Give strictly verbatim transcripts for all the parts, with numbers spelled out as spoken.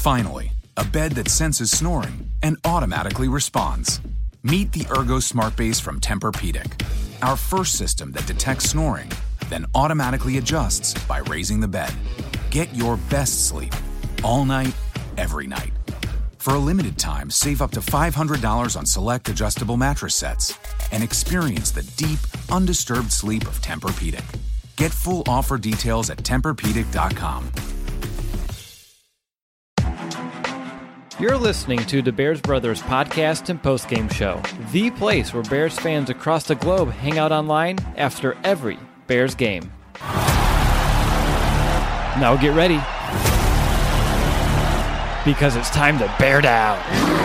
Finally, a bed that senses snoring and automatically responds. Meet the Ergo Smart Base from Tempur-Pedic, our first system that detects snoring, then automatically adjusts by raising the bed. Get your best sleep all night, every night. For a limited time, save up to five hundred dollars on select adjustable mattress sets and experience the deep, undisturbed sleep of Tempur-Pedic. Get full offer details at Tempur Pedic dot com. You're listening to the Bears Brothers podcast and postgame show, the place where Bears fans across the globe hang out online after every Bears game. Now get ready, because it's time to bear down.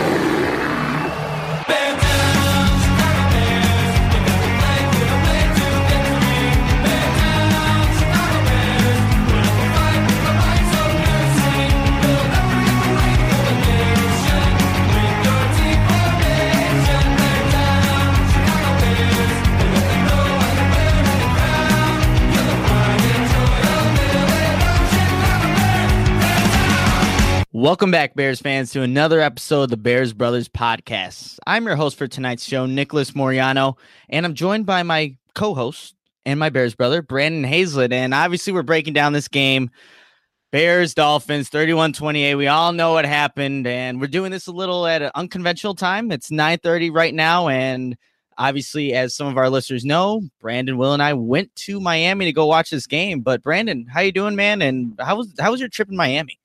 Welcome back, Bears fans, to another episode of the Bears Brothers podcast. I'm your host for tonight's show, Nicholas Moriano, and I'm joined by my co-host and my Bears brother, Brandon Hazlett. And obviously, we're breaking down this game. Bears, Dolphins, thirty-one twenty-eight. We all know what happened, and we're doing this a little at an unconventional time. It's nine thirty right now, and obviously, as some of our listeners know, Brandon, Will, and I went to Miami to go watch this game. But Brandon, how you doing, man? And how was how was your trip in Miami?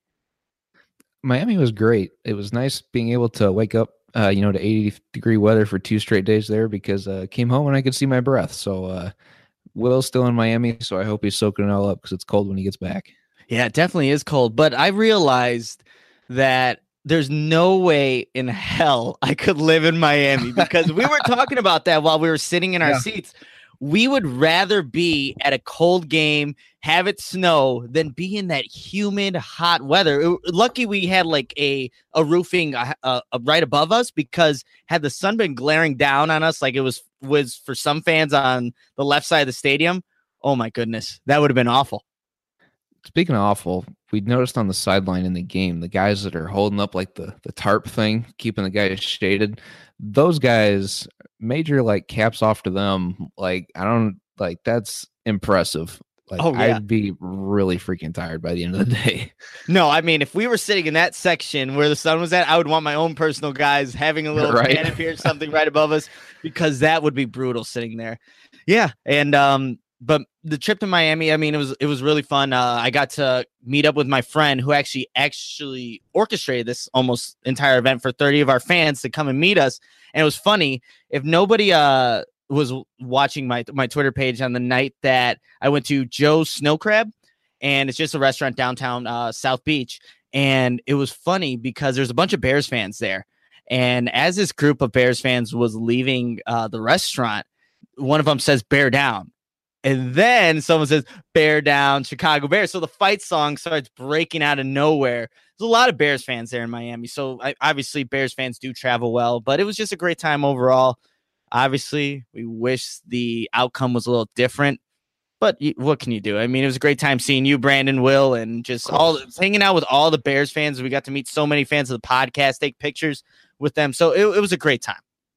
Miami was great. It was nice being able to wake up, uh, you know, to eighty degree weather for two straight days there because I uh, came home and I could see my breath. So uh, Will's still in Miami, so I hope he's soaking it all up because it's cold when he gets back. Yeah, it definitely is cold. But I realized that there's no way in hell I could live in Miami because we were talking about that while we were sitting in our yeah. seats. We would rather be at a cold game, have it snow, than be in that humid, hot weather. It, lucky we had like a, a roofing uh, uh, right above us, because had the sun been glaring down on us like it was, was for some fans on the left side of the stadium, oh my goodness, that would have been awful. Speaking of awful, we noticed on the sideline in the game, the guys that are holding up like the, the tarp thing, keeping the guys shaded, those guys, major like caps off to them. Like, I don't like, that's impressive. Like, oh, yeah. I'd be really freaking tired by the end of the day. No, I mean, if we were sitting in that section where the sun was at, I would want my own personal guys having a little right. canopy or something right above us, because that would be brutal sitting there. Yeah. And, um, but the trip to Miami, I mean, it was it was really fun. Uh, I got to meet up with my friend who actually actually orchestrated this almost entire event for thirty of our fans to come and meet us. And it was funny. If nobody uh, was watching my my Twitter page on the night that I went to Joe's Snow Crab, and it's just a restaurant downtown uh, South Beach. And it was funny because there's a bunch of Bears fans there. And as this group of Bears fans was leaving uh, the restaurant, one of them says, "Bear down." And then someone says, "Bear down, Chicago Bears." So the fight song starts breaking out of nowhere. There's a lot of Bears fans there in Miami. So I, obviously Bears fans do travel well, but it was just a great time overall. Obviously, we wish the outcome was a little different, but y- what can you do? I mean, it was a great time seeing you, Brandon, Will, and just all hanging out with all the Bears fans. We got to meet so many fans of the podcast, take pictures with them. So it, it was a great time.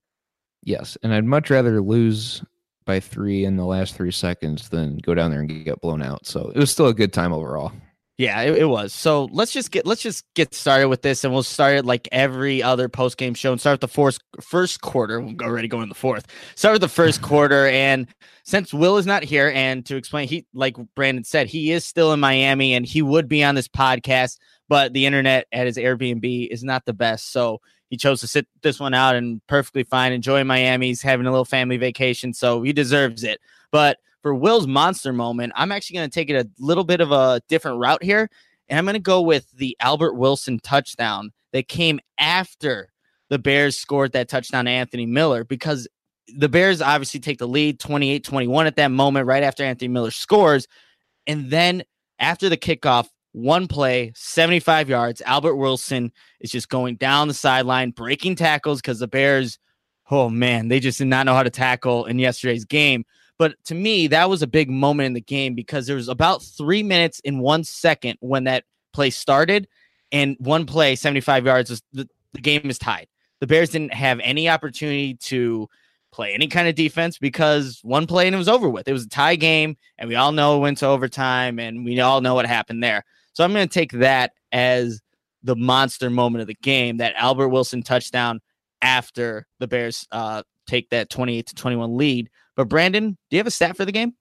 Yes, and I'd much rather lose by three in the last three seconds than go down there and get blown out. So it was still a good time overall. Yeah, it, it was. So let's just get let's just get started with this, and we'll start it like every other post game show and start the fourth first quarter. We're already going to the fourth. Start with the first quarter, and since Will is not here, and to explain, he like Brandon said, he is still in Miami, and he would be on this podcast, but the internet at his Airbnb is not the best, so he chose to sit this one out, and perfectly fine. Enjoying Miami. He's having a little family vacation, so he deserves it. But for Will's monster moment, I'm actually going to take it a little bit of a different route here, and I'm going to go with the Albert Wilson touchdown that came after the Bears scored that touchdown to Anthony Miller, because the Bears obviously take the lead twenty-eight twenty-one at that moment right after Anthony Miller scores. And then after the kickoff, one play, seventy-five yards, Albert Wilson is just going down the sideline, breaking tackles, because the Bears, oh man, they just did not know how to tackle in yesterday's game. But to me, that was a big moment in the game, because there was about three minutes and one second when that play started, and one play, seventy-five yards, is, the, the game is tied. The Bears didn't have any opportunity to play any kind of defense because one play and it was over with. It was a tie game, and we all know it went to overtime, and we all know what happened there. So I'm going to take that as the monster moment of the game, that Albert Wilson touchdown after the Bears uh, take that twenty-eight to twenty-one lead. But Brandon, do you have a stat for the game?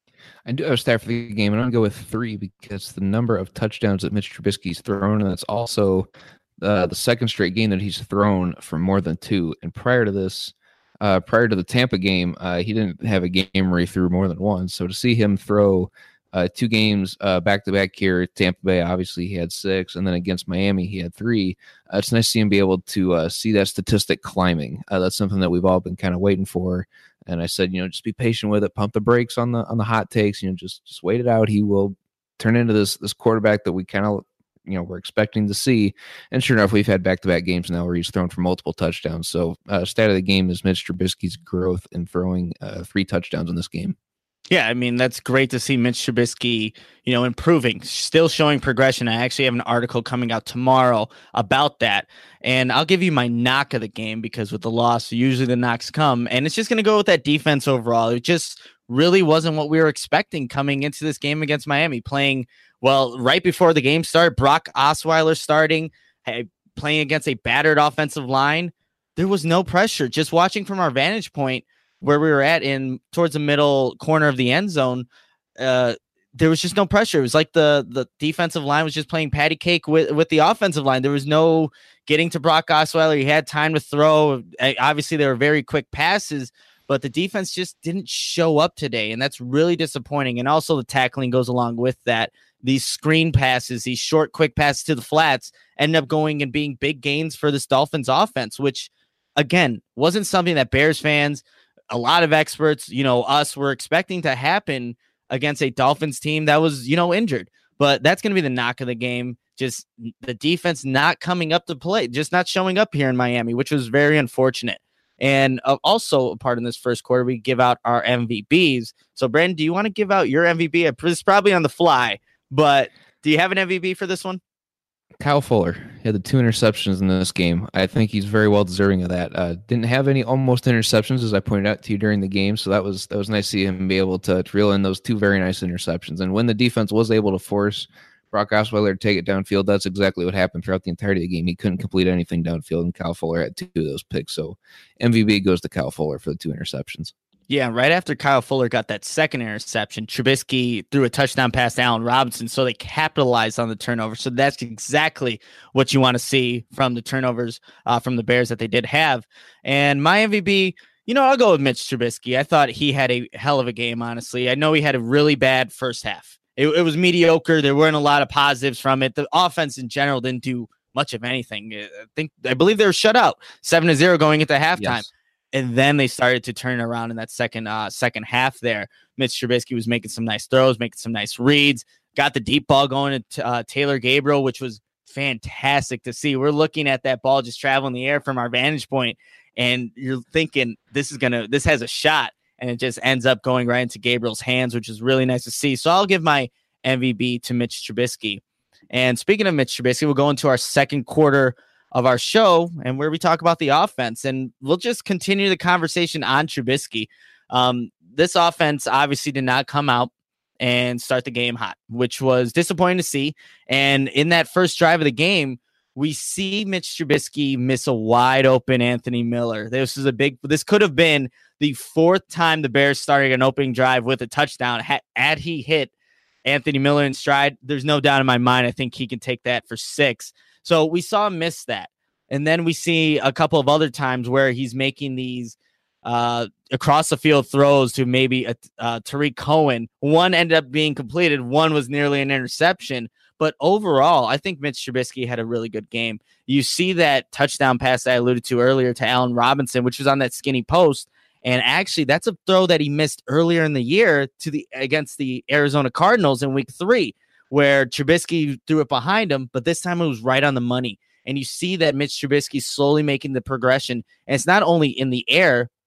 I do have a stat for the game, and I'm going to go with three because the number of touchdowns that Mitch Trubisky's thrown, and that's also uh, the second straight game that he's thrown for more than two. And prior to this, uh, prior to the Tampa game, uh, he didn't have a game where he threw more than one. So to see him throw uh, two games uh, back-to-back here at Tampa Bay, obviously he had six, and then against Miami he had three. Uh, it's nice to see him be able to uh, see that statistic climbing. Uh, that's something that we've all been kind of waiting for. And I said, you know, just be patient with it. Pump the brakes on the on the hot takes. You know, just just wait it out. He will turn into this this quarterback that we kind of, you know, we're expecting to see. And sure enough, we've had back to back games now where he's thrown for multiple touchdowns. So, uh, stat of the game is Mitch Trubisky's growth in throwing uh, three touchdowns in this game. Yeah, I mean, that's great to see Mitch Trubisky, you know, improving, still showing progression. I actually have an article coming out tomorrow about that. And I'll give you my knock of the game because with the loss, usually the knocks come. And it's just going to go with that defense overall. It just really wasn't what we were expecting coming into this game against Miami. Playing, well, right before the game started, Brock Osweiler starting, playing against a battered offensive line. There was no pressure. Just watching from our vantage point, where we were at in towards the middle corner of the end zone, uh, there was just no pressure. It was like the the defensive line was just playing patty cake with, with the offensive line. There was no getting to Brock Osweiler. He had time to throw. Obviously, there were very quick passes, but the defense just didn't show up today, and that's really disappointing. And also the tackling goes along with that. These screen passes, these short, quick passes to the flats end up going and being big gains for this Dolphins offense, which, again, wasn't something that Bears fans, a lot of experts, you know, us were expecting to happen against a Dolphins team that was, you know, injured. But that's going to be the knock of the game. Just the defense not coming up to play, just not showing up here in Miami, which was very unfortunate. And uh, also a part in this first quarter, we give out our M V Bs. So, Brandon, do you want to give out your M V B? It's probably on the fly, but do you have an M V B for this one? Kyle Fuller had the two interceptions in this game. I think he's very well deserving of that. Uh, didn't have any almost interceptions, as I pointed out to you during the game, so that was that was nice to see him be able to, to reel in those two very nice interceptions. And when the defense was able to force Brock Osweiler to take it downfield, that's exactly what happened throughout the entirety of the game. He couldn't complete anything downfield, and Kyle Fuller had two of those picks. So M V B goes to Kyle Fuller for the two interceptions. Yeah, right after Kyle Fuller got that second interception, Trubisky threw a touchdown pass to Allen Robinson, so they capitalized on the turnover. So that's exactly what you want to see from the turnovers uh, from the Bears that they did have. And my M V P, you know, I'll go with Mitch Trubisky. I thought he had a hell of a game, honestly. I know he had a really bad first half. It, it was mediocre. There weren't a lot of positives from it. The offense in general didn't do much of anything. I think I believe they were shut out seven to zero going into halftime. Yes. And then they started to turn around in that second uh, second half there. Mitch Trubisky was making some nice throws, making some nice reads, got the deep ball going to uh, Taylor Gabriel, which was fantastic to see. We're looking at that ball just travel in the air from our vantage point, and you're thinking this is going to, this has a shot, and it just ends up going right into Gabriel's hands, which is really nice to see. So I'll give my M V P to Mitch Trubisky. And speaking of Mitch Trubisky, we'll go into our second quarter of our show and where we talk about the offense, and we'll just continue the conversation on Trubisky. Um, this offense obviously did not come out and start the game hot, which was disappointing to see. And in that first drive of the game, we see Mitch Trubisky miss a wide open Anthony Miller. This is a big, this could have been the fourth time the Bears started an opening drive with a touchdown. Had, had he hit Anthony Miller in stride, there's no doubt in my mind, I think he can take that for six. So we saw him miss that. And then we see a couple of other times where he's making these uh, across the field throws to maybe a, uh, Tariq Cohen. One ended up being completed. One was nearly an interception. But overall, I think Mitch Trubisky had a really good game. You see that touchdown pass that I alluded to earlier to Allen Robinson, which was on that skinny post. And actually, that's a throw that he missed earlier in the year to the against the Arizona Cardinals in week three, where Trubisky threw it behind him, but this time it was right on the money. And you see that Mitch Trubisky slowly making the progression. And it's not only in the air,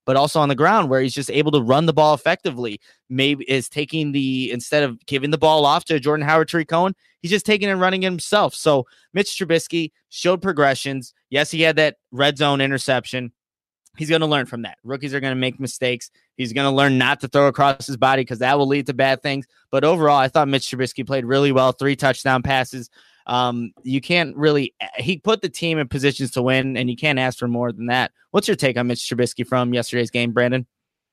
but also on the ground where he's just able to run the ball effectively. Maybe is taking the, instead of giving the ball off to Jordan Howard, Tariq Cohen, he's just taking and running it himself. So Mitch Trubisky showed progressions. Yes, he had that red zone interception. He's going to learn from that. Rookies are going to make mistakes. He's going to learn not to throw across his body because that will lead to bad things. But overall, I thought Mitch Trubisky played really well. Three touchdown passes. Um, you can't really, he put the team in positions to win, and you can't ask for more than that. What's your take on Mitch Trubisky from yesterday's game, Brandon?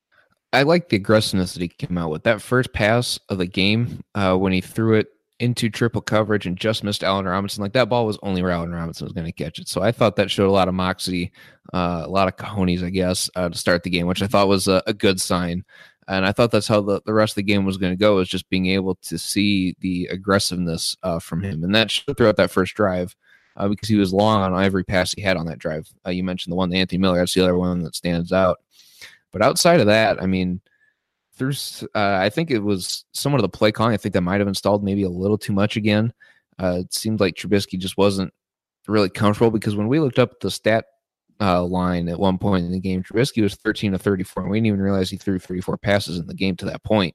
I like the aggressiveness that he came out with. That first pass of the game, uh, when he threw it into triple coverage and just missed Allen Robinson, like that ball was only where Allen Robinson was going to catch it. So I thought that showed a lot of moxie, uh, a lot of cojones, I guess, uh, to start the game, which I thought was a, a good sign. And I thought that's how the, the rest of the game was going to go, is just being able to see the aggressiveness uh, from him. And that showed throughout that first drive uh, because he was long on every pass he had on that drive. Uh, you mentioned the one, the Anthony Miller, that's the other one that stands out. But outside of that, I mean, through, uh, I think it was somewhat of the play calling. I think that might have installed maybe a little too much again. Uh, it seemed like Trubisky just wasn't really comfortable, because when we looked up the stat uh, line at one point in the game, Trubisky was thirteen to thirty-four, and we didn't even realize he threw thirty-four passes in the game to that point.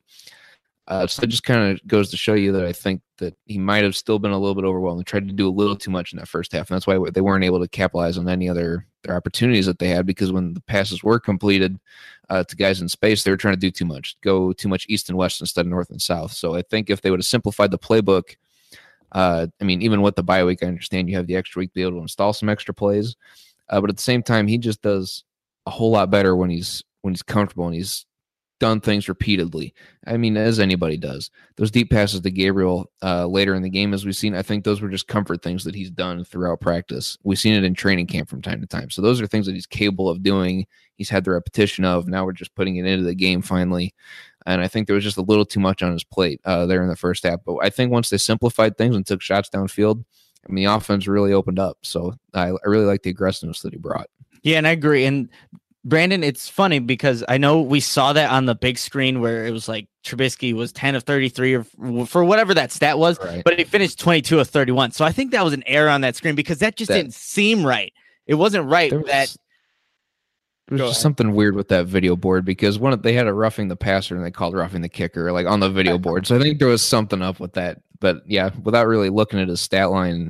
Uh, so it just kind of goes to show you that I think that he might have still been a little bit overwhelmed and tried to do a little too much in that first half. And that's why they weren't able to capitalize on any other their opportunities that they had, because when the passes were completed uh, to guys in space, they were trying to do too much, go too much east and west instead of north and south. So I think if they would have simplified the playbook, uh, I mean, even with the bye week, I understand you have the extra week to be able to install some extra plays. Uh, but at the same time, he just does a whole lot better when he's when he's comfortable and he's done things repeatedly. I mean, as anybody does. Those deep passes to Gabriel uh, later in the game, as we've seen, I think those were just comfort things that he's done throughout practice. We've seen it in training camp from time to time. So those are things that he's capable of doing. He's had the repetition of. Now we're just putting it into the game finally. And I think there was just a little too much on his plate uh, there in the first half. But I think once they simplified things and took shots downfield, I mean, the offense really opened up. So I, I really like the aggressiveness that he brought. Yeah, and I agree. And Brandon, it's funny because I know we saw that on the big screen where it was like Trubisky was ten of thirty-three or for whatever that stat was, right, but he finished twenty-two of thirty-one. So I think that was an error on that screen because that just that, didn't seem right. It wasn't right there was, that there was just something weird with that video board, because one they had a roughing the passer and they called roughing the kicker like on the video board. So I think there was something up with that. But yeah, without really looking at his stat line,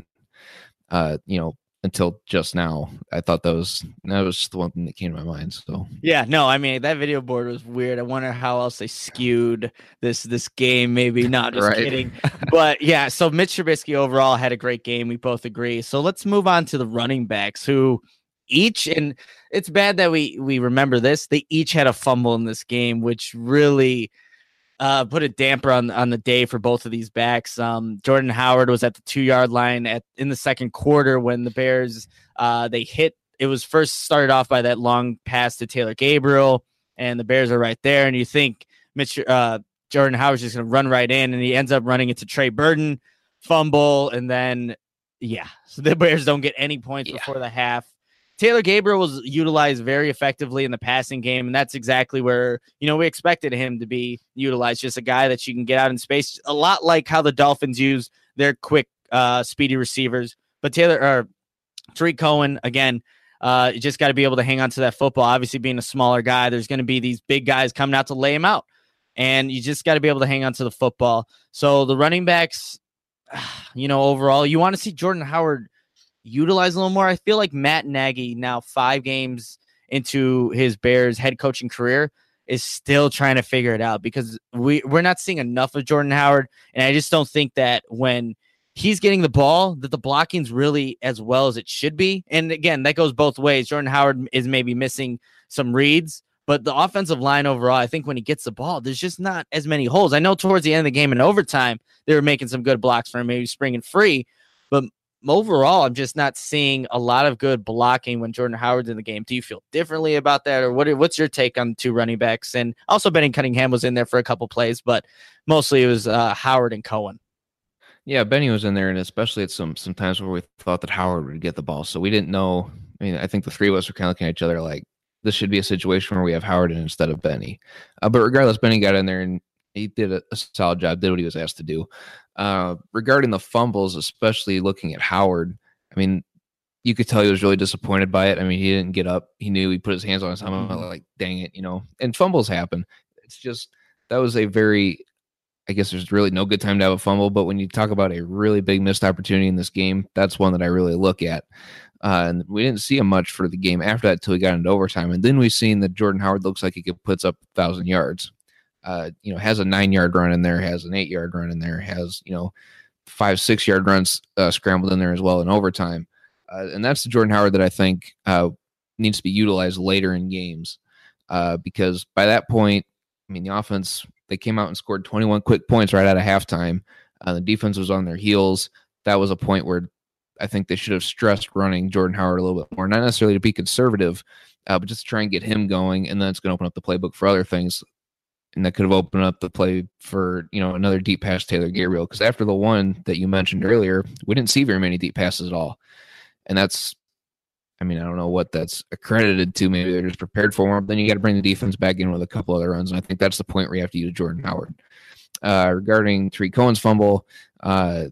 uh, you know, until just now, I thought that was that was just the one thing that came to my mind. So yeah, no, I mean that video board was weird. I wonder how else they skewed this this game. Maybe not, just right. kidding. But yeah, so Mitch Trubisky overall had a great game. We both agree. So let's move on to the running backs, who each, and it's bad that we we remember this, they each had a fumble in this game, which really Uh, put a damper on on the day for both of these backs. Um, Jordan Howard was at the two yard line at in the second quarter when the Bears uh they hit. It was first started off by that long pass to Taylor Gabriel, and the Bears are right there. And you think Mitch uh Jordan Howard's just going to run right in, and he ends up running into Trey Burton, fumble, and then yeah, so the Bears don't get any points yeah. before the half. Taylor Gabriel was utilized very effectively in the passing game, and that's exactly where, you know, we expected him to be utilized, just a guy that you can get out in space, a lot like how the Dolphins use their quick, uh, speedy receivers. But Taylor or Tariq Cohen, again, uh, you just got to be able to hang on to that football. Obviously, being a smaller guy, there's going to be these big guys coming out to lay him out, and you just got to be able to hang on to the football. So the running backs, you know, overall, you want to see Jordan Howard utilize a little more. I feel like Matt Nagy, now five games into his Bears head coaching career, is still trying to figure it out, because we, we're not seeing enough of Jordan Howard. And I just don't think that when he's getting the ball, that the blocking's really as well as it should be. And again, that goes both ways. Jordan Howard is maybe missing some reads, but the offensive line overall, I think when he gets the ball, there's just not as many holes. I know towards the end of the game in overtime, they were making some good blocks for him, maybe springing free, but overall, I'm just not seeing a lot of good blocking when Jordan Howard's in the game. Do you feel differently about that, or what? What's your take on the two running backs? And also, Benny Cunningham was in there for a couple plays, but mostly it was uh, Howard and Cohen. Yeah, Benny was in there, and especially at some some times where we thought that Howard would get the ball, so we didn't know. I mean, I think the three of us were kind of looking at each other like this should be a situation where we have Howard in instead of Benny. Uh, but regardless, Benny got in there and he did a, a solid job, did what he was asked to do. Uh, regarding the fumbles, especially looking at Howard, I mean, you could tell he was really disappointed by it. I mean, he didn't get up. He knew he put his hands on his helmet, mm-hmm. like, dang it, you know, and fumbles happen. It's just, that was a very, I guess there's really no good time to have a fumble, but when you talk about a really big missed opportunity in this game, that's one that I really look at. Uh, and we didn't see him much for the game after that until we got into overtime. And then we've seen that Jordan Howard looks like he could puts up a thousand yards. Uh, you know, has a nine yard run in there, has an eight yard run in there, has, you know, five, six yard runs uh, scrambled in there as well in overtime. Uh, and that's the Jordan Howard that I think uh, needs to be utilized later in games uh, because by that point, I mean, the offense, they came out and scored twenty-one quick points right out of halftime. Uh, the defense was on their heels. That was a point where I think they should have stressed running Jordan Howard a little bit more, not necessarily to be conservative, uh, but just to try and get him going. And then it's going to open up the playbook for other things. And that could have opened up the play for, you know, another deep pass to Taylor Gabriel. Because after the one that you mentioned earlier, we didn't see very many deep passes at all. And that's, I mean, I don't know what that's accredited to. Maybe they're just prepared for him. Then you got to bring the defense back in with a couple other runs. And I think that's the point where you have to use Jordan Howard. Uh, regarding Tariq Cohen's fumble, uh,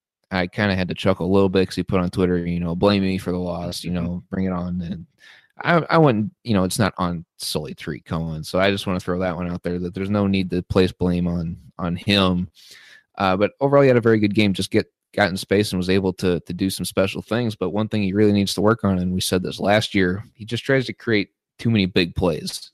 I kind of had to chuckle a little bit because he put on Twitter, you know, blame me for the loss, you know, bring it on. And I, I wouldn't, you know, it's not on solely Tariq Cohen. So I just want to throw that one out there that there's no need to place blame on on him. Uh, but overall, he had a very good game. Just get got in space and was able to to do some special things. But one thing he really needs to work on, and we said this last year, he just tries to create too many big plays.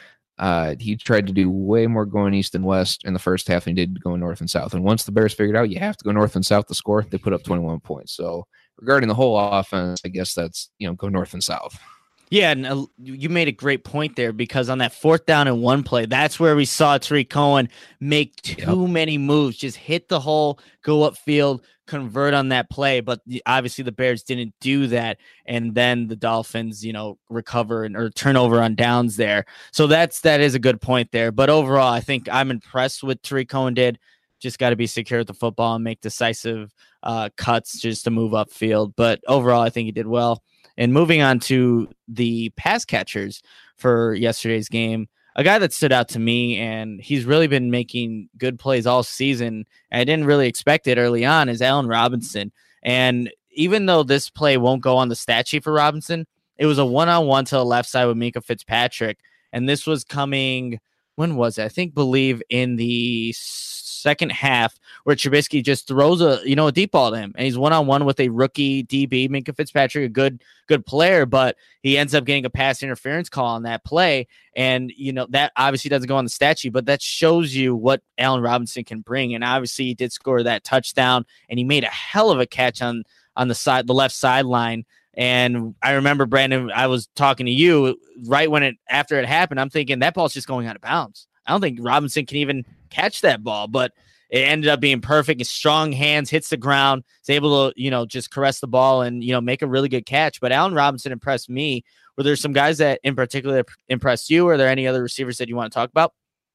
Uh, he tried to do way more going east and west in the first half than he did going north and south. And once the Bears figured out you have to go north and south to score, they put up twenty-one points. So regarding the whole offense, I guess that's, you know, go north and south. Yeah, and uh, you made a great point there because on that fourth down and one play, that's where we saw Tariq Cohen make too yep. many moves, just hit the hole, go upfield, convert on that play. But the, obviously the Bears didn't do that, and then the Dolphins, you know, recover and or turnover on downs there. So that's that is a good point there. But overall, I think I'm impressed with Tariq Cohen did. Just got to be secure with the football and make decisive uh, cuts just to move upfield. But overall, I think he did well. And moving on to the pass catchers for yesterday's game, a guy that stood out to me, and he's really been making good plays all season. I didn't really expect it early on, is Allen Robinson. And even though this play won't go on the stat sheet for Robinson, it was a one-on-one to the left side with Minkah Fitzpatrick. And this was coming, when was it? I think, believe in the second half where Trubisky just throws a, you know, a deep ball to him, and he's one-on-one with a rookie D B, Minkah Fitzpatrick, a good, good player, but he ends up getting a pass interference call on that play. And, you know, that obviously doesn't go on the stat sheet, but that shows you what Allen Robinson can bring. And obviously he did score that touchdown, and he made a hell of a catch on, on the side, the left sideline. And I remember, Brandon, I was talking to you right when it, after it happened, I'm thinking that ball's just going out of bounds. I don't think Robinson can even catch that ball, but it ended up being perfect. His strong hands hits the ground. He's able to, you know, just caress the ball and, you know, make a really good catch. But Allen Robinson impressed me. Were there some guys that in particular impressed you? Or are there any other receivers that you want to talk about?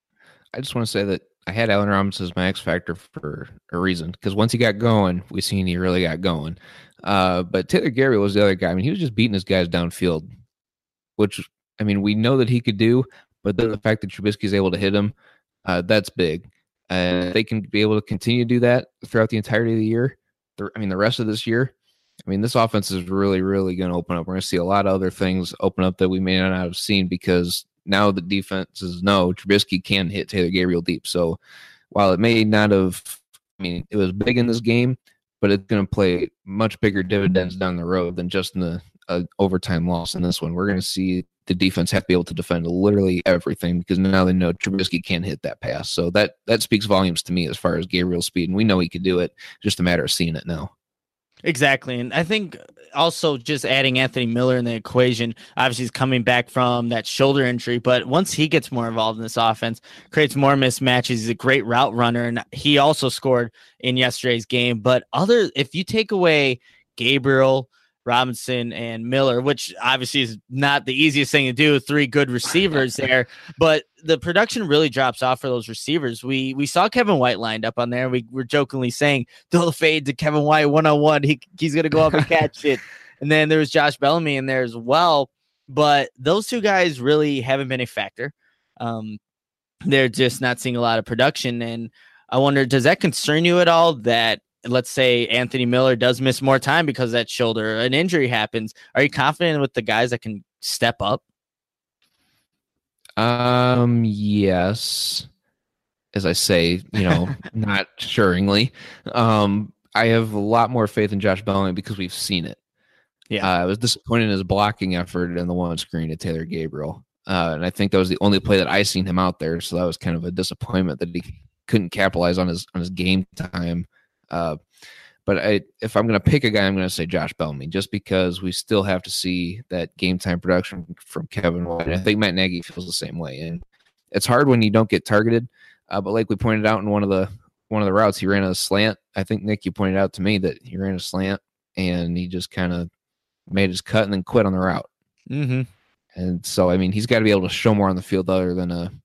I just want to say that I had Allen Robinson as my X factor for a reason, because once he got going, we seen he really got going. Uh, but Taylor Gabriel was the other guy. I mean, he was just beating his guys downfield, which, I mean, we know that he could do, but then the fact that Trubisky is able to hit him, uh, that's big. And uh, they can be able to continue to do that throughout the entirety of the year. The, I mean, the rest of this year, I mean, this offense is really, really going to open up. We're going to see a lot of other things open up that we may not have seen, because now the defenses know Trubisky can hit Taylor Gabriel deep. So while it may not have, I mean, it was big in this game, but it's going to play much bigger dividends down the road than just in the uh, overtime loss in this one. We're going to see the defense have to be able to defend literally everything, because now they know Trubisky can't hit that pass. So that that speaks volumes to me as far as Gabriel's speed, and we know he could do it. Just a matter of seeing it now. Exactly. And I think also just adding Anthony Miller in the equation, obviously he's coming back from that shoulder injury, but once he gets more involved in this offense, creates more mismatches. He's a great route runner, and he also scored in yesterday's game. But other, if you take away Gabriel, Robinson, and Miller, which obviously is not the easiest thing to do, three good receivers there, but the production really drops off for those receivers. We we saw Kevin White lined up on there. We were jokingly saying, throw the fade to Kevin White one-on-one. He, he's going to go up and catch it. And then there was Josh Bellamy in there as well. But those two guys really haven't been a factor. Um, they're just not seeing a lot of production. And I wonder, does that concern you at all that let's say Anthony Miller does miss more time because of that shoulder, an injury happens, are you confident with the guys that can step up? Um, yes. As I say, you know, not assuringly. Um, I have a lot more faith in Josh Bellamy because we've seen it. Yeah, uh, I was disappointed in his blocking effort in the one screen to Taylor Gabriel. Uh, and I think that was the only play that I seen him out there. So that was kind of a disappointment that he couldn't capitalize on his on his game time. Uh, but I, if I'm going to pick a guy, I'm going to say Josh Bellamy, just because we still have to see that game time production from Kevin White. I think Matt Nagy feels the same way. And it's hard when you don't get targeted. Uh, but like we pointed out in one of the one of the routes, he ran a slant. I think, Nick, you pointed out to me that he ran a slant and he just kind of made his cut and then quit on the route. Mm-hmm. And so, I mean, he's got to be able to show more on the field other than a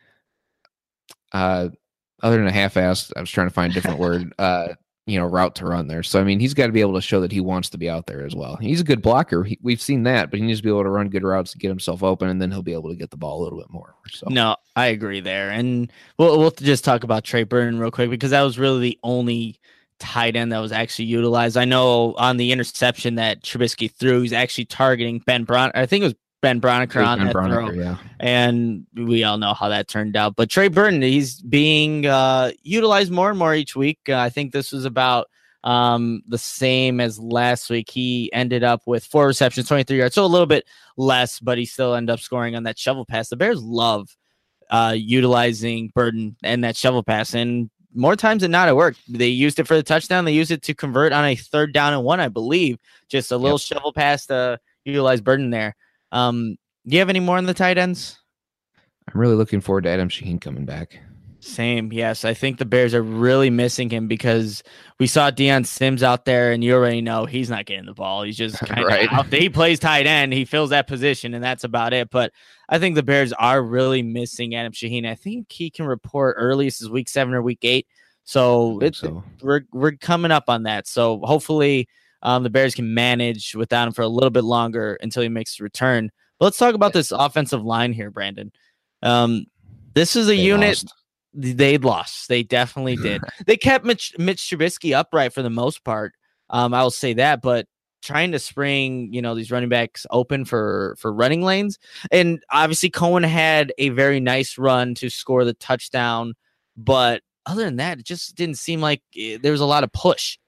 uh, other than a half-assed. I was trying to find a different word. Uh, you know, route to run there. So, I mean, he's got to be able to show that he wants to be out there as well. He's a good blocker. He, we've seen that, but he needs to be able to run good routes to get himself open, and then he'll be able to get the ball a little bit more. So, no, I agree there. And we'll, we'll just talk about Trey Burton real quick, because that was really the only tight end that was actually utilized. I know on the interception that Trubisky threw, he's actually targeting Ben Bron. I think it was Ben Broniker on ben that Broniker, throw. Yeah. And we all know how that turned out. But Trey Burton, he's being uh, utilized more and more each week. Uh, I think this was about um, the same as last week. He ended up with four receptions, twenty-three yards, so a little bit less, but he still ended up scoring on that shovel pass. The Bears love uh, utilizing Burton and that shovel pass, and more times than not, it worked. They used it for the touchdown. They used it to convert on a third down and one, I believe. Just a little yep. shovel pass to utilize Burton there. Um, do you have any more on the tight ends? I'm really looking forward to Adam Shaheen coming back. Same, yes. I think the Bears are really missing him, because we saw Deion Sims out there, and you already know he's not getting the ball. He's just kind of right. out there. He plays tight end. He fills that position, and that's about it. But I think the Bears are really missing Adam Shaheen. I think he can report earliest is week seven or week eight. So, it's, so. we're we're coming up on that. So hopefully um, the Bears can manage without him for a little bit longer until he makes a return. But let's talk about this offensive line here, Brandon. Um, this is a they unit. Lost. They lost. They definitely did. They kept Mitch, Mitch Trubisky upright for the most part. Um, I will say that, but trying to spring, you know, these running backs open for, for running lanes. And obviously Cohen had a very nice run to score the touchdown. But other than that, it just didn't seem like it, there was a lot of push.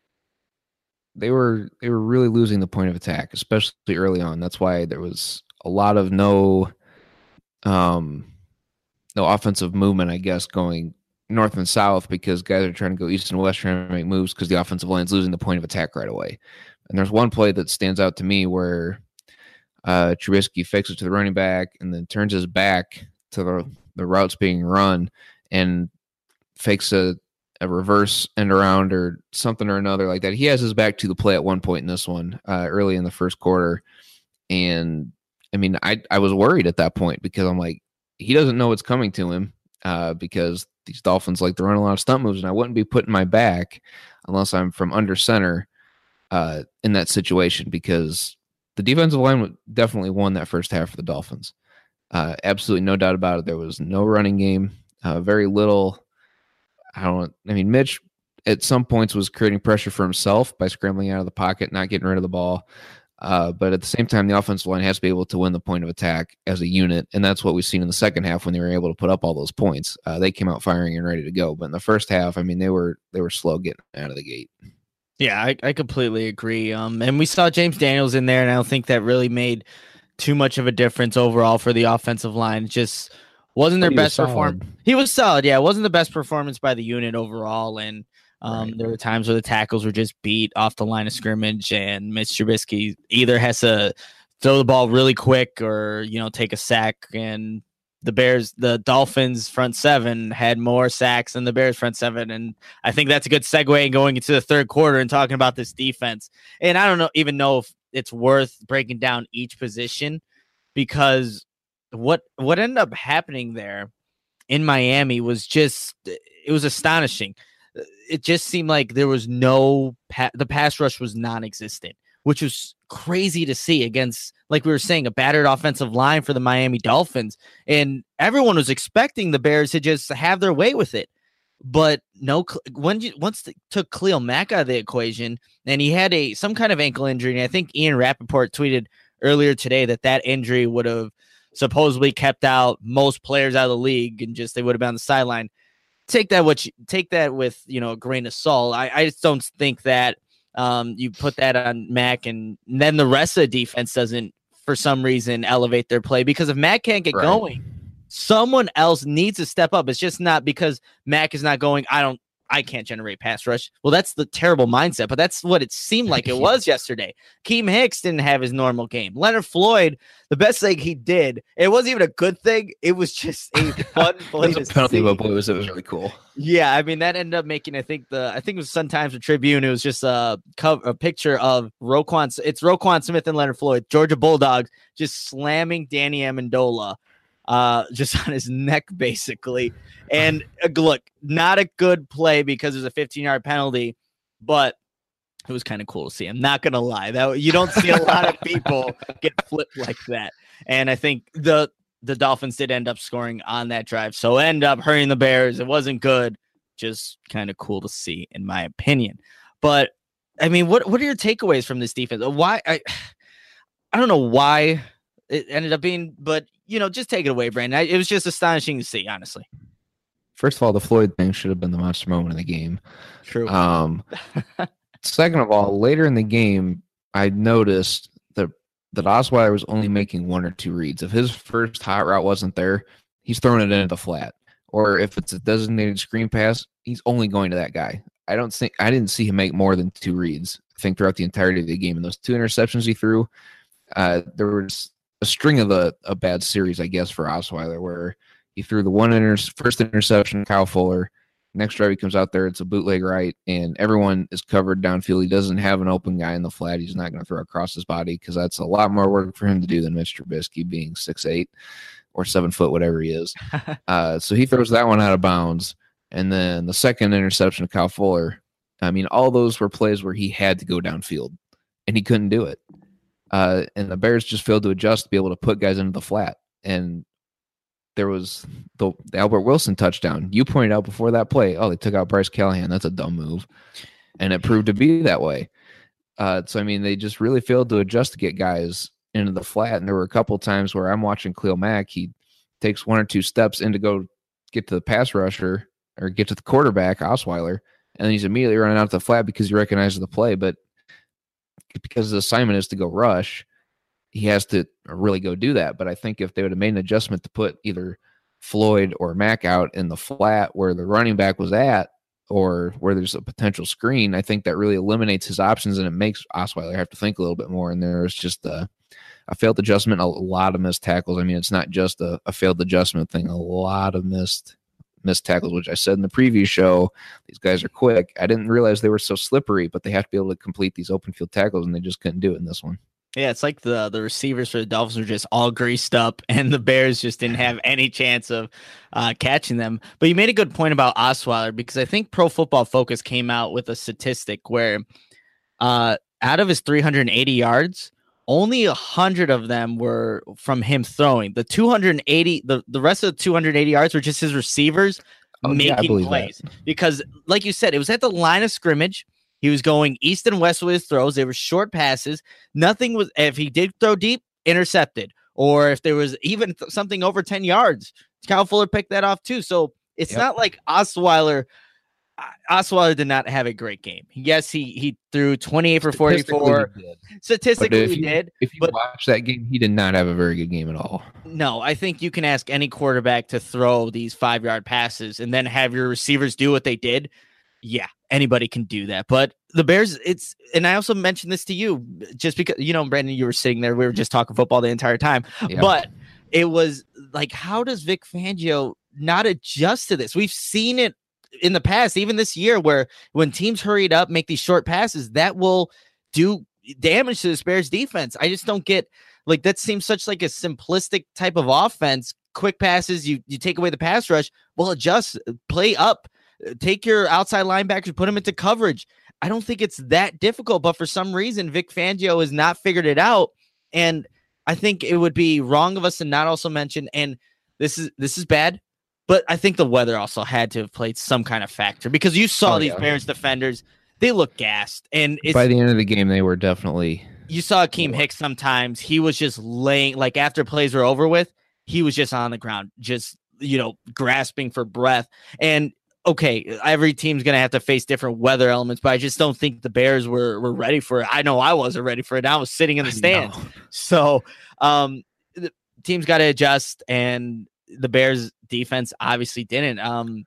They were, they were really losing the point of attack, especially early on. That's why there was a lot of no, um, no offensive movement, I guess, going north and south, because guys are trying to go east and west trying to make moves because the offensive line's losing the point of attack right away. And there's one play that stands out to me where uh, Trubisky fakes it to the running back and then turns his back to the, the routes being run and fakes a, a reverse end around or something or another like that. He has his back to the play at one point in this one uh, early in the first quarter. And, I mean, I, I was worried at that point, because I'm like, he doesn't know what's coming to him uh, because these Dolphins like to run a lot of stunt moves, and I wouldn't be putting my back unless I'm from under center uh, in that situation, because the defensive line definitely won that first half for the Dolphins. Uh, absolutely no doubt about it. There was no running game, uh, very little. I don't. I mean, Mitch at some points was creating pressure for himself by scrambling out of the pocket, not getting rid of the ball. Uh, but at the same time, the offensive line has to be able to win the point of attack as a unit, and that's what we've seen in the second half when they were able to put up all those points. Uh, they came out firing and ready to go. But in the first half, I mean, they were they were slow getting out of the gate. Yeah, I, I completely agree. Um, and we saw James Daniels in there, and I don't think that really made too much of a difference overall for the offensive line. It just wasn't their best performance. He was solid. Yeah, it wasn't the best performance by the unit overall, and Um, right. There were times where the tackles were just beat off the line of scrimmage, and Mitch Trubisky either has to throw the ball really quick or, you know, take a sack. And the Bears, the Dolphins front seven had more sacks than the Bears front seven. And I think that's a good segue going into the third quarter and talking about this defense. And I don't know, even know if it's worth breaking down each position, because what, what ended up happening there in Miami was just, it was astonishing. It just seemed like there was no pa- the pass rush was non-existent, which was crazy to see against, like we were saying, a battered offensive line for the Miami Dolphins. And everyone was expecting the Bears to just have their way with it. But no, when you once they took Khalil Mack out of the equation, and he had a some kind of ankle injury, and I think Ian Rappaport tweeted earlier today that that injury would have supposedly kept out most players out of the league, and just they would have been on the sideline. Take that what you, take that with you know a grain of salt. I, I just don't think that um, you put that on Mack, and, and then the rest of the defense doesn't for some reason elevate their play, because if Mack can't get right. going, someone else needs to step up. It's just not because Mack is not going. I don't. I can't generate pass rush. Well, that's the terrible mindset, but that's what it seemed like it was yesterday. Keem Hicks didn't have his normal game. Leonard Floyd, the best thing he did, it wasn't even a good thing. It was just a fun play. It was a penalty, but boy, it was, it was really cool. Yeah, I mean that ended up making. I think the I think it was Sun Times or Tribune. It was just a cover, a picture of Roquan. It's Roquan Smith and Leonard Floyd, Georgia Bulldogs, just slamming Danny Amendola. Uh, just on his neck, basically. And uh, look, not a good play because there's a fifteen-yard penalty, but it was kind of cool to see. I'm not gonna lie, that you don't see a lot of people get flipped like that. And I think the the Dolphins did end up scoring on that drive, so end up hurting the Bears. It wasn't good, just kind of cool to see, in my opinion. But I mean, what what are your takeaways from this defense? Why I I don't know why it ended up being, but you know, just take it away, Brandon. It was just astonishing to see, honestly. First of all, the Floyd thing should have been the monster moment of the game. True. Um, second of all, later in the game, I noticed that that Osweiler was only making one or two reads. If his first hot route wasn't there, he's throwing it into the flat. Or if it's a designated screen pass, he's only going to that guy. I don't think I didn't see him make more than two reads, I think, throughout the entirety of the game. And those two interceptions he threw, uh, there was a string of a, a bad series, I guess, for Osweiler, where he threw the one inter- first interception, Kyle Fuller. Next drive, he comes out there, it's a bootleg right, and everyone is covered downfield. He doesn't have an open guy in the flat. He's not going to throw across his body because that's a lot more work for him to do than Mitch Trubisky being six eight or seven foot, whatever he is. uh, so he throws that one out of bounds. And then the second interception of Kyle Fuller, I mean, all those were plays where he had to go downfield, and he couldn't do it. Uh, and the Bears just failed to adjust to be able to put guys into the flat. And there was the, the Albert Wilson touchdown. You pointed out before that play, oh, they took out Bryce Callahan. That's a dumb move. And it proved to be that way. Uh, so, I mean, they just really failed to adjust to get guys into the flat. And there were a couple of times where I'm watching Khalil Mack. He takes one or two steps in to go get to the pass rusher or get to the quarterback, Osweiler, and then he's immediately running out to the flat because he recognizes the play. But because the assignment is to go rush, he has to really go do that. But I think if they would have made an adjustment to put either Floyd or Mack out in the flat where the running back was at, or where there's a potential screen, I think that really eliminates his options, and it makes Osweiler have to think a little bit more. And there's just a, a failed adjustment, a lot of missed tackles. I mean, it's not just a, a failed adjustment thing, a lot of missed missed tackles, which I said in the preview show, these guys are quick. I didn't realize they were so slippery, but they have to be able to complete these open field tackles, and they just couldn't do it in this one. Yeah, it's like the the receivers for the Dolphins were just all greased up, and the Bears just didn't have any chance of uh, catching them. But you made a good point about Osweiler, because I think Pro Football Focus came out with a statistic where uh, out of his three hundred eighty yards, only one hundred of them were from him throwing. The two hundred eighty, the, the rest of the two hundred eighty yards were just his receivers oh, making yeah, plays. That. Because, like you said, it was at the line of scrimmage. He was going east and west with his throws. They were short passes. Nothing was, if he did throw deep, intercepted. Or if there was even th- something over ten yards, Kyle Fuller picked that off too. So it's yep. not like Osweiler. Osweiler did not have a great game. Yes, he he threw twenty-eight for forty-four. He Statistically, he you, did. If you but, watch that game, he did not have a very good game at all. No, I think you can ask any quarterback to throw these five-yard passes and then have your receivers do what they did. Yeah, anybody can do that. But the Bears, it's, and I also mentioned this to you just because, you know, Brandon, you were sitting there. We were just talking football the entire time. Yeah. But it was like, how does Vic Fangio not adjust to this? We've seen it in the past, even this year, where when teams hurried up, make these short passes, that will do damage to the Bears defense. I just don't get, like, that seems such like a simplistic type of offense. Quick passes, you you take away the pass rush. Well, adjust, play up, take your outside linebackers, put them into coverage. I don't think it's that difficult, but for some reason, Vic Fangio has not figured it out. And I think it would be wrong of us to not also mention, and this is this is bad, But I think the weather also had to have played some kind of factor because you saw oh, these yeah. Bears defenders, they look gassed. And it's, by the end of the game, they were definitely. You saw Akeem Hicks sometimes. He was just laying, like after plays were over with, he was just on the ground, just, you know, grasping for breath. And okay, every team's going to have to face different weather elements, but I just don't think the Bears were, were ready for it. I know I wasn't ready for it. I was sitting in the stands. So um, the team's got to adjust, and the Bears defense obviously didn't. Um,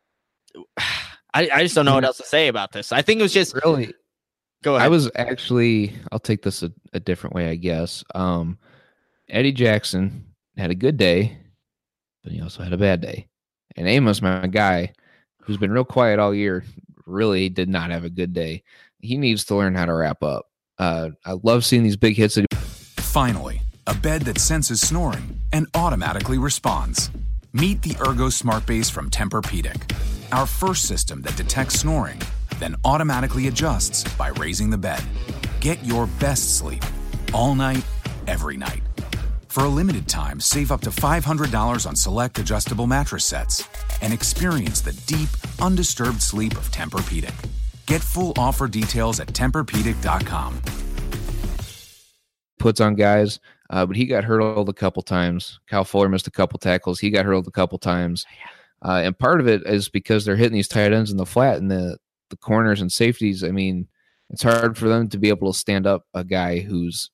I, I just don't know what else to say about this. I think it was just really. Go ahead. I was actually. I'll take this a, a different way, I guess. Um, Eddie Jackson had a good day, but he also had a bad day. And Amos, my guy, who's been real quiet all year, really did not have a good day. He needs to learn how to wrap up. Uh, I love seeing these big hits. That he- Finally, a bed that senses snoring and automatically responds. Meet the Ergo Smart Base from Tempur-Pedic, our first system that detects snoring, then automatically adjusts by raising the bed. Get your best sleep all night, every night. For a limited time, save up to five hundred dollars on select adjustable mattress sets and experience the deep, undisturbed sleep of Tempur-Pedic. Get full offer details at Tempur Pedic dot com. Puts on guys, uh, but he got hurdled a couple times. Kyle Fuller missed a couple tackles. He got hurdled a couple times. Uh, and part of it is because they're hitting these tight ends in the flat and the, the corners and safeties. I mean, it's hard for them to be able to stand up a guy who's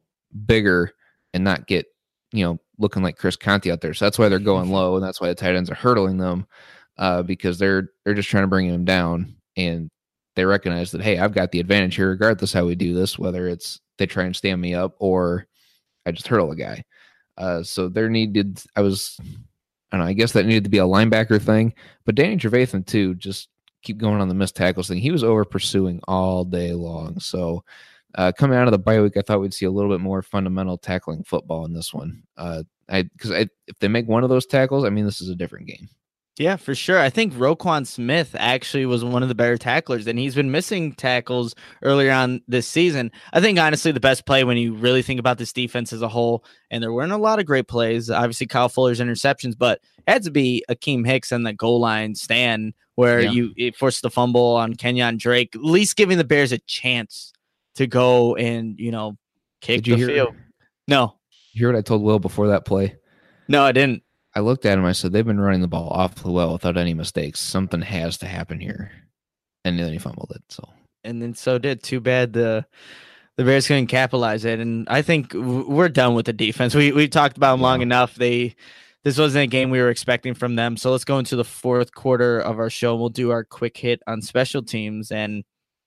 bigger and not get, you know, looking like Chris Conte out there. So that's why they're going low, and that's why the tight ends are hurdling them, uh, because they're they're just trying to bring him down, and they recognize that, hey, I've got the advantage here regardless how we do this, whether it's they try and stand me up or I just hurdle a guy. Uh, so there needed, I was, I don't know, I guess that needed to be a linebacker thing, but Danny Trevathan too, just keep going on the missed tackles thing. He was over pursuing all day long. So uh, coming out of the bye week, I thought we'd see a little bit more fundamental tackling football in this one. Uh, I, cause I, if they make one of those tackles, I mean, this is a different game. Yeah, for sure. I think Roquan Smith actually was one of the better tacklers, and he's been missing tackles earlier on this season. I think, honestly, the best play when you really think about this defense as a whole, and there weren't a lot of great plays, obviously Kyle Fuller's interceptions, but it had to be Akeem Hicks on the goal line stand where yeah. you it forced the fumble on Kenyon Drake, at least giving the Bears a chance to go and, you know, kick the hear, field. No. You hear what I told Will before that play? No, I didn't. I looked at him. I said, they've been running the ball awfully well without any mistakes. Something has to happen here. And then he fumbled it. So, and then so did. Too bad the the Bears couldn't capitalize it. And I think we're done with the defense. We we talked about them yeah. long enough. They this wasn't a game we were expecting from them. So let's go into the fourth quarter of our show. We'll do our quick hit on special teams, and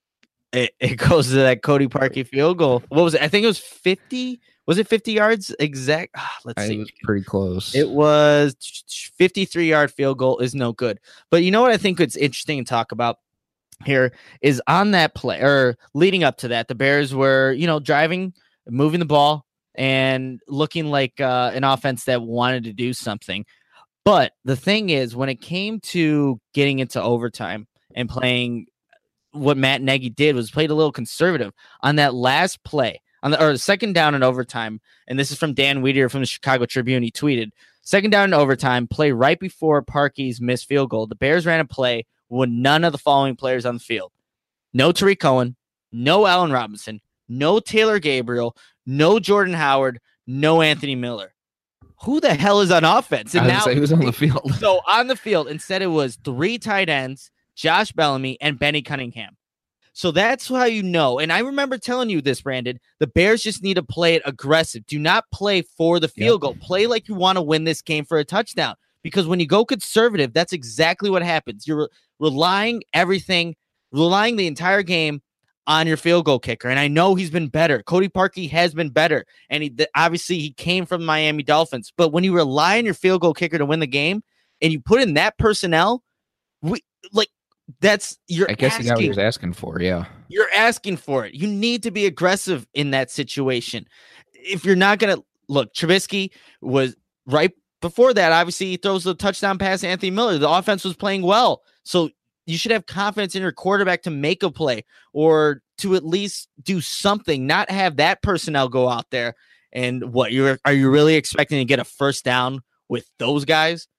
it, it goes to that Cody Parkey field goal. What was it? I think it was fifty. Was it fifty yards exact? Ah, let's I see. It was pretty close. It was fifty-three yard field goal is no good. But you know what I think it's interesting to talk about here is on that play or leading up to that, the Bears were, you know, driving, moving the ball and looking like uh, an offense that wanted to do something. But the thing is, when it came to getting into overtime and playing, what Matt Nagy did was played a little conservative on that last play. On the, or the second down in overtime, and this is from Dan Wiederer from the Chicago Tribune. He tweeted, second down in overtime, play right before Parkey's missed field goal. The Bears ran a play with none of the following players on the field. No Tariq Cohen, no Allen Robinson, no Taylor Gabriel, no Jordan Howard, no Anthony Miller. Who the hell is on offense? And I now say who's on the field. So on the field, instead it was three tight ends, Josh Bellamy, and Benny Cunningham. So that's how you know. And I remember telling you this, Brandon. The Bears just need to play it aggressive. Do not play for the field yep. goal. Play like you want to win this game for a touchdown. Because when you go conservative, that's exactly what happens. You're re- relying everything, relying the entire game on your field goal kicker. And I know he's been better. Cody Parkey has been better. And he th- obviously he came from the Miami Dolphins. But when you rely on your field goal kicker to win the game and you put in that personnel, we like, That's you're. I guess asking, he got what he was asking for. Yeah, you're asking for it. You need to be aggressive in that situation. If you're not gonna look, Trubisky was right before that. Obviously, he throws the touchdown pass to Anthony Miller. The offense was playing well, so you should have confidence in your quarterback to make a play or to at least do something. Not have that personnel go out there and what you're. Are you really expecting to get a first down with those guys?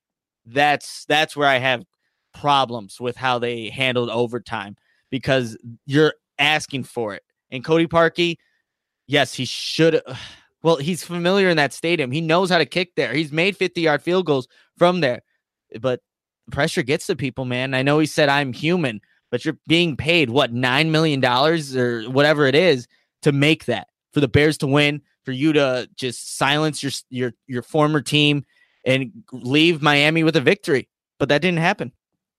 That's that's where I have problems with how they handled overtime, because you're asking for it. And Cody Parkey, yes, he should. Well, he's familiar in that stadium. He knows how to kick there. He's made fifty-yard field goals from there. But pressure gets to people, man. I know he said I'm human, but you're being paid, what, nine million dollars or whatever it is to make that, for the Bears to win, for you to just silence your your your former team and leave Miami with a victory. But that didn't happen.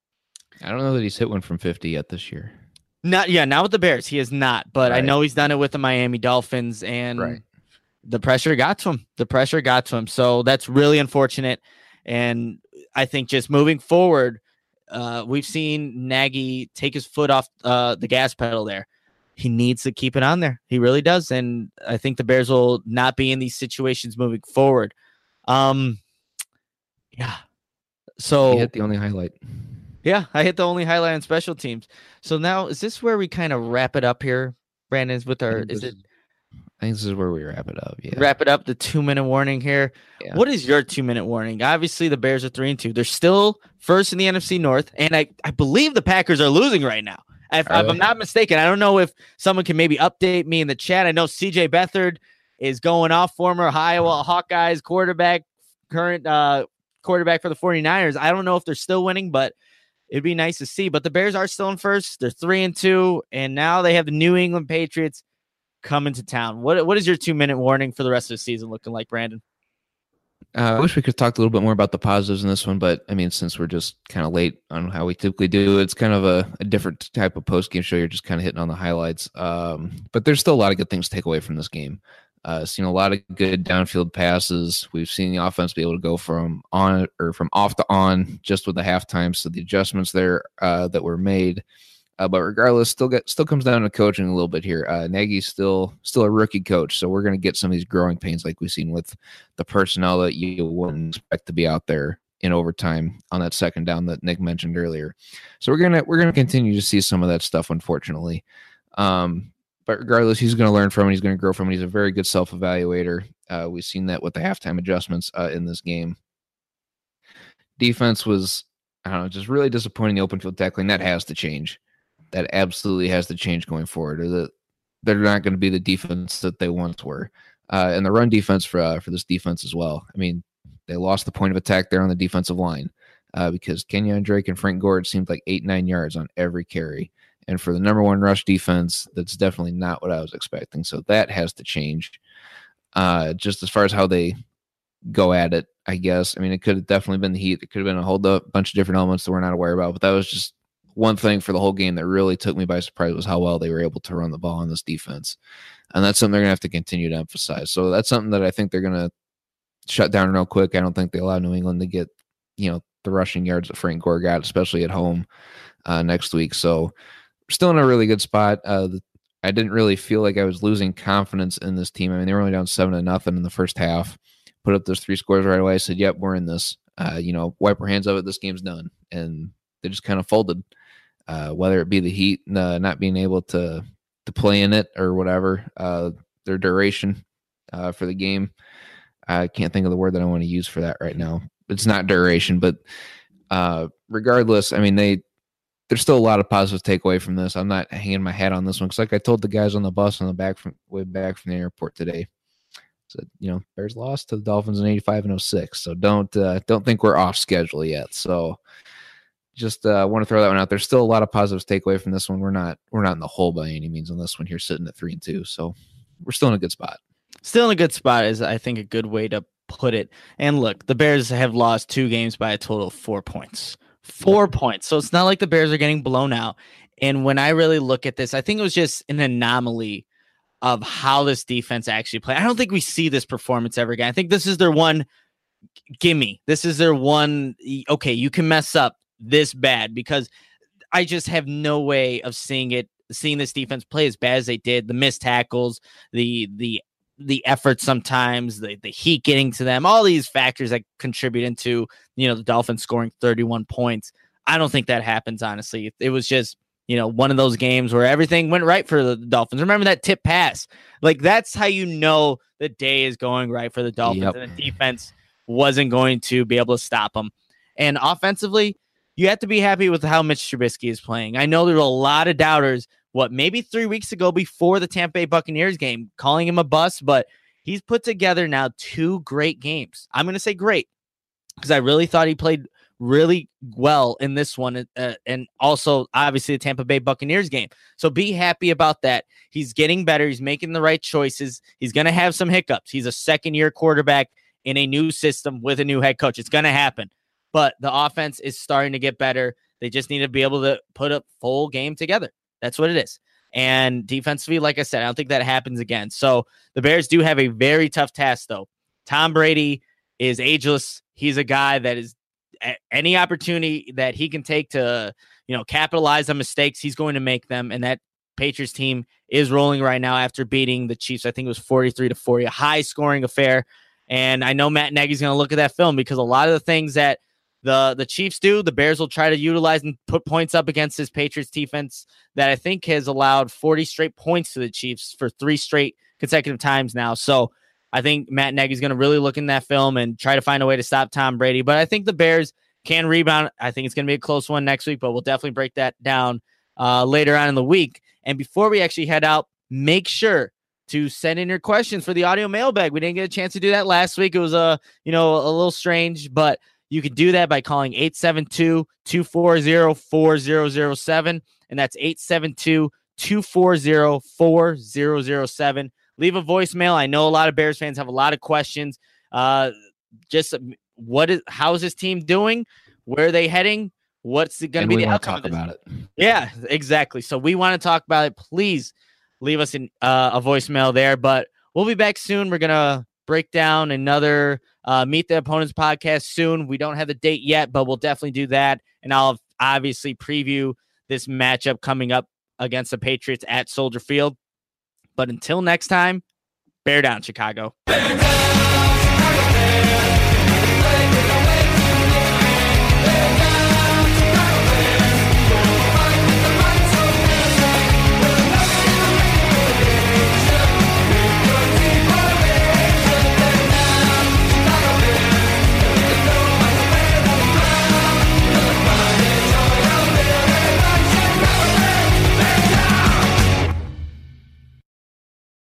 I don't know that he's hit one from fifty yet this year. Not yeah, not with the Bears. He is not. But right. I know he's done it with the Miami Dolphins, and right. the pressure got to him. The pressure got to him. So that's really unfortunate. And I think just moving forward, uh, we've seen Nagy take his foot off uh, the gas pedal there. He needs to keep it on there. He really does. And I think the Bears will not be in these situations moving forward. Um, yeah. So you hit the only highlight. Yeah, I hit the only highlight on special teams. So now, is this where we kind of wrap it up here, Brandon? With our, is it? I think this is where we wrap it up. Yeah, wrap it up. The two minute warning here. Yeah. What is your two minute warning? Obviously, the Bears are three and two. They're still first in the N F C North, and I, I believe the Packers are losing right now. If, if I'm not mistaken, I don't know if someone can maybe update me in the chat. I know C J Beathard is going off, former Iowa Hawkeyes quarterback, current uh, quarterback for the 49ers. I don't know if they're still winning, but it'd be nice to see. But the Bears are still in first. They're three and two, and now they have the New England Patriots coming to town. What What is your two minute warning for the rest of the season looking like, Brandon? Uh, I wish we could talk a little bit more about the positives in this one, but I mean, since we're just kind of late on how we typically do, it's kind of a, a different type of post game show. You're just kind of hitting on the highlights. Um, but there's still a lot of good things to take away from this game. Uh, seen a lot of good downfield passes. We've seen the offense be able to go from on or from off to on just with the halftime. So the adjustments there uh, that were made. Uh, but regardless, still get still comes down to coaching a little bit here. Uh, Nagy's still still a rookie coach, so we're going to get some of these growing pains like we've seen with the personnel that you wouldn't expect to be out there in overtime on that second down that Nick mentioned earlier. So we're gonna we're gonna continue to see some of that stuff, unfortunately. Um, but regardless, he's going to learn from it. He's going to grow from it. He's a very good self evaluator. Uh, we've seen that with the halftime adjustments uh, in this game. Defense was, I don't know, just really disappointing. The open field tackling that has to change. That absolutely has to change going forward, or that they're not going to be the defense that they once were. Uh, and the run defense for uh, for this defense as well. I mean, they lost the point of attack there on the defensive line uh, because Kenyon Drake and Frank Gore seemed like eight, nine yards on every carry. And for the number one rush defense, that's definitely not what I was expecting. So that has to change. Uh, just as far as how they go at it, I guess. I mean, it could have definitely been the heat. It could have been a whole bunch of different elements that we're not aware about, but that was just one thing for the whole game that really took me by surprise was how well they were able to run the ball on this defense. And that's something they're going to have to continue to emphasize. So that's something that I think they're going to shut down real quick. I don't think they allow New England to get, you know, the rushing yards that Frank Gore got, especially at home uh, next week. So we're still in a really good spot. Uh, the, I didn't really feel like I was losing confidence in this team. I mean, they were only down seven to nothing in the first half, put up those three scores right away. I said, yep, we're in this, uh, you know, wipe our hands of it. This game's done. And they just kind of folded. Uh, whether it be the heat, uh, not being able to to play in it or whatever, uh, their duration uh, for the game. I can't think of the word that I want to use for that right now. It's not duration, but uh, regardless, I mean, they there's still a lot of positives to take away from this. I'm not hanging my hat on this one because, like I told the guys on the bus on the back from way back from the airport today, so you know, Bears lost to the Dolphins in eighty-five and oh six. So don't uh, don't think we're off schedule yet. So. Just uh, want to throw that one out. There's still a lot of positives to take away from this one. We're not we're not in the hole by any means on this one here, sitting at three and two. So we're still in a good spot. Still in a good spot is, I think, a good way to put it. And look, the Bears have lost two games by a total of four points. Four yeah. points. So it's not like the Bears are getting blown out. And when I really look at this, I think it was just an anomaly of how this defense actually played. I don't think we see this performance ever again. I think this is their one gimme. This is their one, okay, you can mess up this bad, because I just have no way of seeing it, seeing this defense play as bad as they did. The missed tackles, the the the effort sometimes, the the heat getting to them, all these factors that contribute into, you know, the Dolphins scoring thirty-one points. I don't think that happens, honestly. It was just, you know, one of those games where everything went right for the Dolphins. Remember that tip pass? Like, that's how you know the day is going right for the Dolphins. Yep. And the defense wasn't going to be able to stop them. And offensively, you have to be happy with how Mitch Trubisky is playing. I know there were a lot of doubters, what, maybe three weeks ago before the Tampa Bay Buccaneers game, calling him a bust, but he's put together now two great games. I'm going to say great because I really thought he played really well in this one, uh, and also obviously the Tampa Bay Buccaneers game. So be happy about that. He's getting better. He's making the right choices. He's going to have some hiccups. He's a second-year quarterback in a new system with a new head coach. It's going to happen. But the offense is starting to get better. They just need to be able to put a full game together. That's what it is. And defensively, like I said, I don't think that happens again. So the Bears do have a very tough task, though. Tom Brady is ageless. He's a guy that is any opportunity that he can take to, you know, capitalize on mistakes, he's going to make them. And that Patriots team is rolling right now after beating the Chiefs. I think it was forty-three to forty, a high scoring affair. And I know Matt Nagy's going to look at that film because a lot of the things that the, the Chiefs do, the Bears will try to utilize and put points up against this Patriots defense that I think has allowed forty straight points to the Chiefs for three straight consecutive times now. So I think Matt Nagy's going to really look in that film and try to find a way to stop Tom Brady. But I think the Bears can rebound. I think it's going to be a close one next week, but we'll definitely break that down uh, later on in the week. And before we actually head out, make sure to send in your questions for the audio mailbag. We didn't get a chance to do that last week. It was a, you know, a little strange, but you can do that by calling eight seven two, two four zero, four zero zero seven. And that's eight seven two, two four zero, four zero zero seven. Leave a voicemail. I know a lot of Bears fans have a lot of questions. Uh, just what is, how is this team doing? Where are they heading? What's going to be the outcome talk about it? Yeah, exactly. So we want to talk about it. Please leave us in, uh, a voicemail there, but we'll be back soon. We're going to break down another uh, Meet the Opponents podcast soon. We don't have the date yet, but we'll definitely do that. And I'll obviously preview this matchup coming up against the Patriots at Soldier Field. But until next time, bear down, Chicago. Bear down!